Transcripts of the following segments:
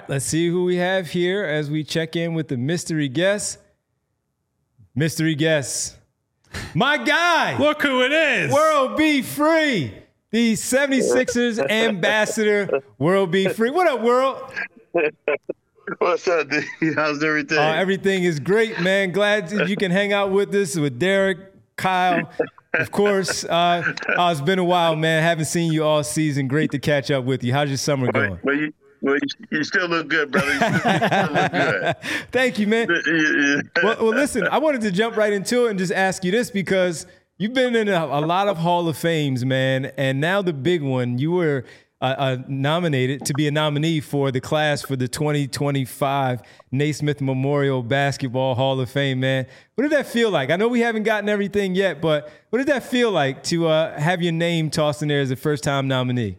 let's see who we have here as we check in with the mystery guest. Mystery guest. My guy. Look who it is. World Be Free. The 76ers ambassador, World Be Free. What up, World? What's up, D? How's everything? Everything is great, man. Glad that you can hang out with us, with Derek, Kyle, of course. It's been a while, man. Haven't seen you all season. Great to catch up with you. How's your summer going? Well, you still look good, brother. You still look good. Thank you, man. Well, listen, I wanted to jump right into it and just ask you this because you've been in a lot of Hall of Fames, man, and now the big one. You were nominated to be a nominee for the class for the 2025 Naismith Memorial Basketball Hall of Fame, man. What did that feel like? I know we haven't gotten everything yet, but what did that feel like to have your name tossed in there as a first-time nominee?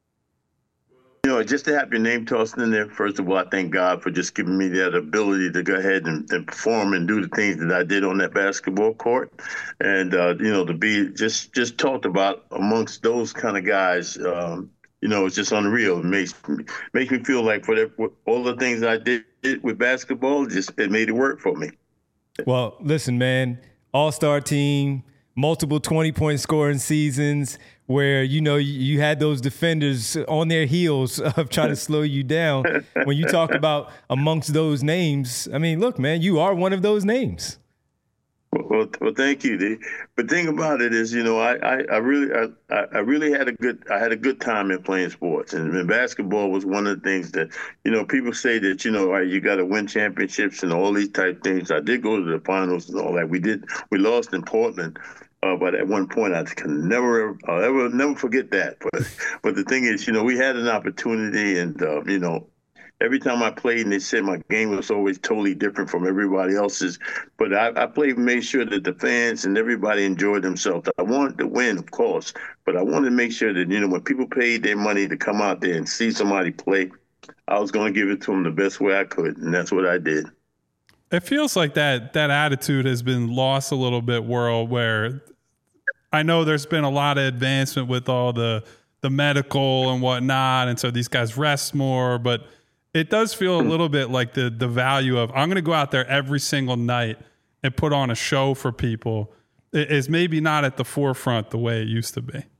You know, just to have your name tossed in there, first of all, I thank God for just giving me that ability to go ahead and perform and do the things that I did on that basketball court. And, you know, to be just talked about amongst those kind of guys, you know, it's just unreal. It makes me feel like for all the things I did with basketball, it made it work for me. Well, listen, man, all-star team, multiple 20-point scoring seasons where, you know, you had those defenders on their heels of trying to slow you down. When you talk about amongst those names, I mean, look, man, you are one of those names. Well, thank you, D. But the thing about it is, you know, I really had a good time in playing sports, and basketball was one of the things that, you know, people say that, you know, you got to win championships and all these type things. I did go to the finals and all that. We lost in Portland, but at one point I'll never forget that. But the thing is, you know, we had an opportunity, and you know, every time I played, and they said my game was always totally different from everybody else's. But I played and made sure that the fans and everybody enjoyed themselves. I wanted to win, of course, but I wanted to make sure that, you know, when people paid their money to come out there and see somebody play, I was going to give it to them the best way I could, and that's what I did. It feels like that attitude has been lost a little bit, World, where I know there's been a lot of advancement with all the medical and whatnot, and so these guys rest more, but it does feel a little bit like the value of I'm going to go out there every single night and put on a show for people is maybe not at the forefront the way it used to be.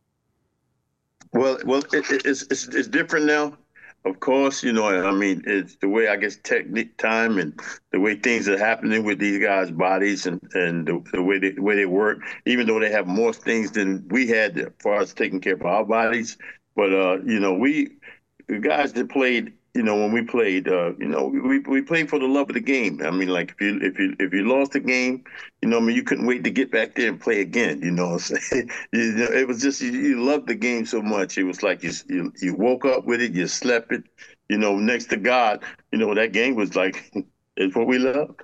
Well, it's different now. Of course, you know, I mean, it's the way, I guess, technique, time, and the way things are happening with these guys' bodies and the way they work, even though they have more things than we had as far as taking care of our bodies. But, you know, the guys that played, you know, when we played, you know, we played for the love of the game. I mean, like if you lost the game, you know, I mean, you couldn't wait to get back there and play again. You know what I'm saying? You know, it was just you loved the game so much. It was like you woke up with it, you slept it. You know, next to God, you know, that game was like it's what we loved.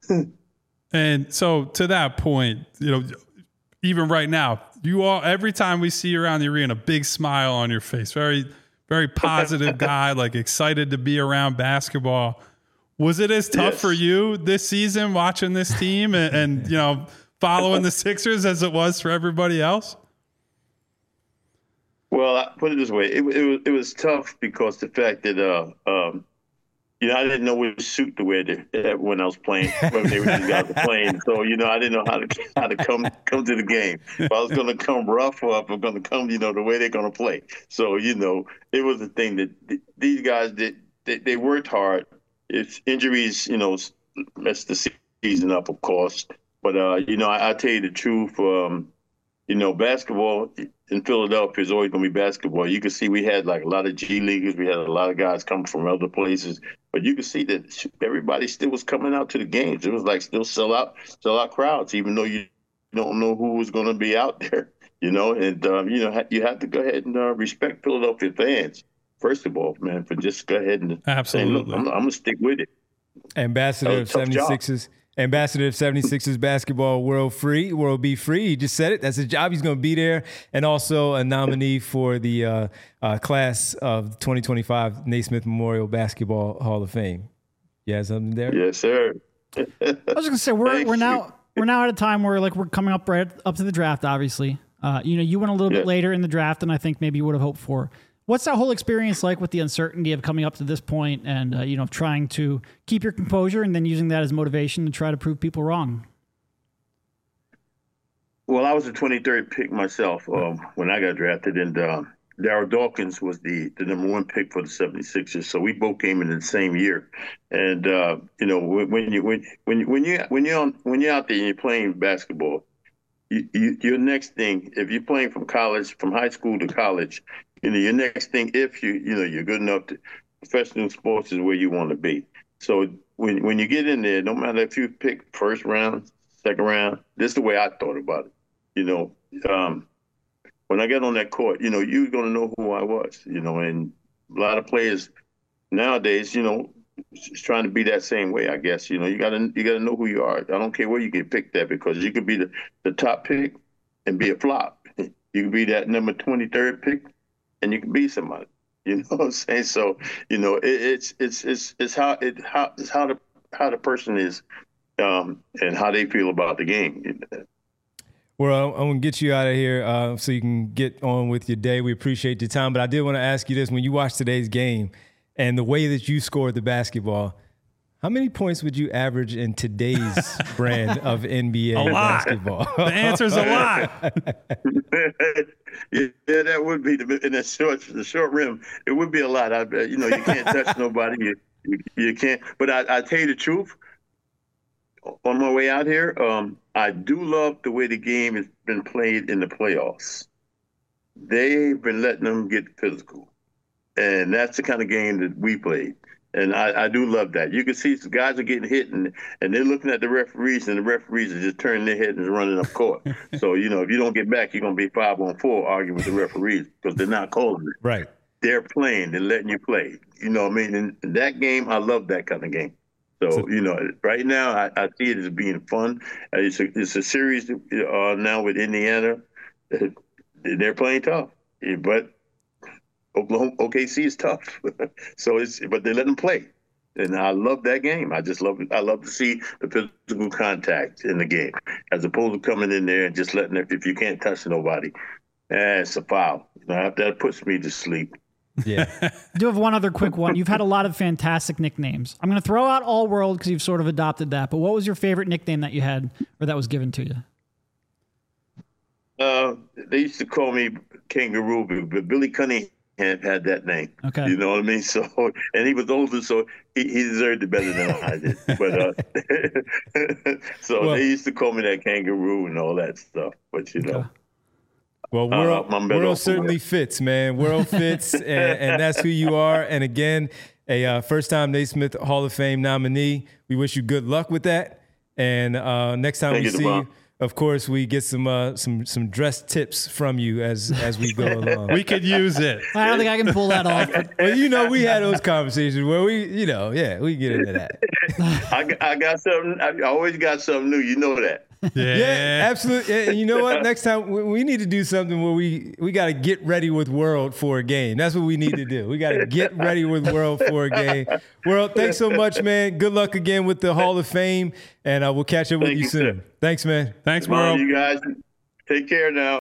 And so to that point, you know, even right now, you all every time we see you around the arena, big smile on your face, very positive guy, like excited to be around basketball. Was it as tough for you this season watching this team and you know, following the Sixers as it was for everybody else? Well, I put it this way. It was tough because the fact that, you know, I didn't know which suit to wear when I was playing, when these guys were playing. So, you know, I didn't know how to come to the game. If I was going to come rough or if I'm going to come, you know, the way they're going to play. So, you know, it was a thing that these guys did. They worked hard. It's injuries, you know, messed the season up, of course. But, you know, I tell you the truth, you know, basketball in Philadelphia is always going to be basketball. You can see we had like a lot of G Leaguers. We had a lot of guys coming from other places. But you can see that everybody still was coming out to the games. It was like still sell out crowds, even though you don't know who was going to be out there, you know. And, you know, you have to go ahead and respect Philadelphia fans, first of all, man, for just go ahead and absolutely. Say, look, I'm going to stick with it. Ambassador of 76ers. Ambassador of 76ers basketball, World Be Free. He just said it. That's his job. He's going to be there. And also a nominee for the class of 2025 Naismith Memorial Basketball Hall of Fame. You have something there? Yes, sir. I was just going to say, we're now at a time where like we're coming up right up to the draft, obviously. You know, you went a little bit later in the draft than I think maybe you would have hoped for. What's that whole experience like with the uncertainty of coming up to this point and, trying to keep your composure and then using that as motivation to try to prove people wrong? Well, I was the 23rd pick myself when I got drafted, and Darryl Dawkins was the number 1 pick for the 76ers. So we both came in the same year. And when you're out there and you're playing basketball, your next thing, if you're playing from high school to college, your next thing, if you're good enough to professional sports, is where you want to be. So when you get in there, no matter if you pick first round, second round, this is the way I thought about it. When I got on that court, you're going to know who I was, and a lot of players nowadays, trying to be that same way, I guess. You got to know who you are. I don't care where you get picked at, because you could be the top pick and be a flop. You could be that number 23rd pick and you can be somebody. You know what I'm saying? So, it's how the person is and how they feel about the game. Well, I'm going to get you out of here so you can get on with your day. We appreciate your time. But I did want to ask you this. When you watch today's game and the way that you scored the basketball, how many points would you average in today's brand of NBA basketball? The answer's a lot. Yeah, that would be in the short rim. It would be a lot. You can't touch nobody. You can't. But I tell you the truth. On my way out here, I do love the way the game has been played in the playoffs. They've been letting them get physical, and that's the kind of game that we played. And I do love that. You can see some guys are getting hit, and they're looking at the referees, and the referees are just turning their head and running up court. So, if you don't get back, you're going to be 5-on-4 arguing with the referees because they're not calling it. Right. They're playing. They're letting you play. You know what I mean? And that game, I love that kind of game. So, right now I see it as being fun. It's a series now with Indiana. They're playing tough, but OKC is tough. But they let them play, and I love that game. I love to see the physical contact in the game, as opposed to coming in there and just letting it. If you can't touch nobody, it's a foul. That puts me to sleep. Yeah. I do have one other quick one. You've had a lot of fantastic nicknames. I'm going to throw out All World because you've sort of adopted that. But what was your favorite nickname that you had or that was given to you? They used to call me Kangaroo, but Billy Cunningham had that name. Okay. You know what I mean? So, and he was older, so he deserved it better than I did. But they used to call me that Kangaroo and all that stuff. But Okay. Well, World certainly fits, man. World fits, and that's who you are. And again, a first-time Naismith Hall of Fame nominee. We wish you good luck with that. And next time we see you, of course, we get some dress tips from you as we go along. We could use it. I don't think I can pull that off. Well, we had those conversations where we get into that. I got something. I always got something new. You know that. Yeah, absolutely. And you know what? Next time we need to do something where we got to get ready with World for a game. That's what we need to do. We got to get ready with World for a game. World, thanks so much, man. Good luck again with the Hall of Fame, and we'll catch up with you soon. Thanks, man. Thanks, World. You guys, take care now.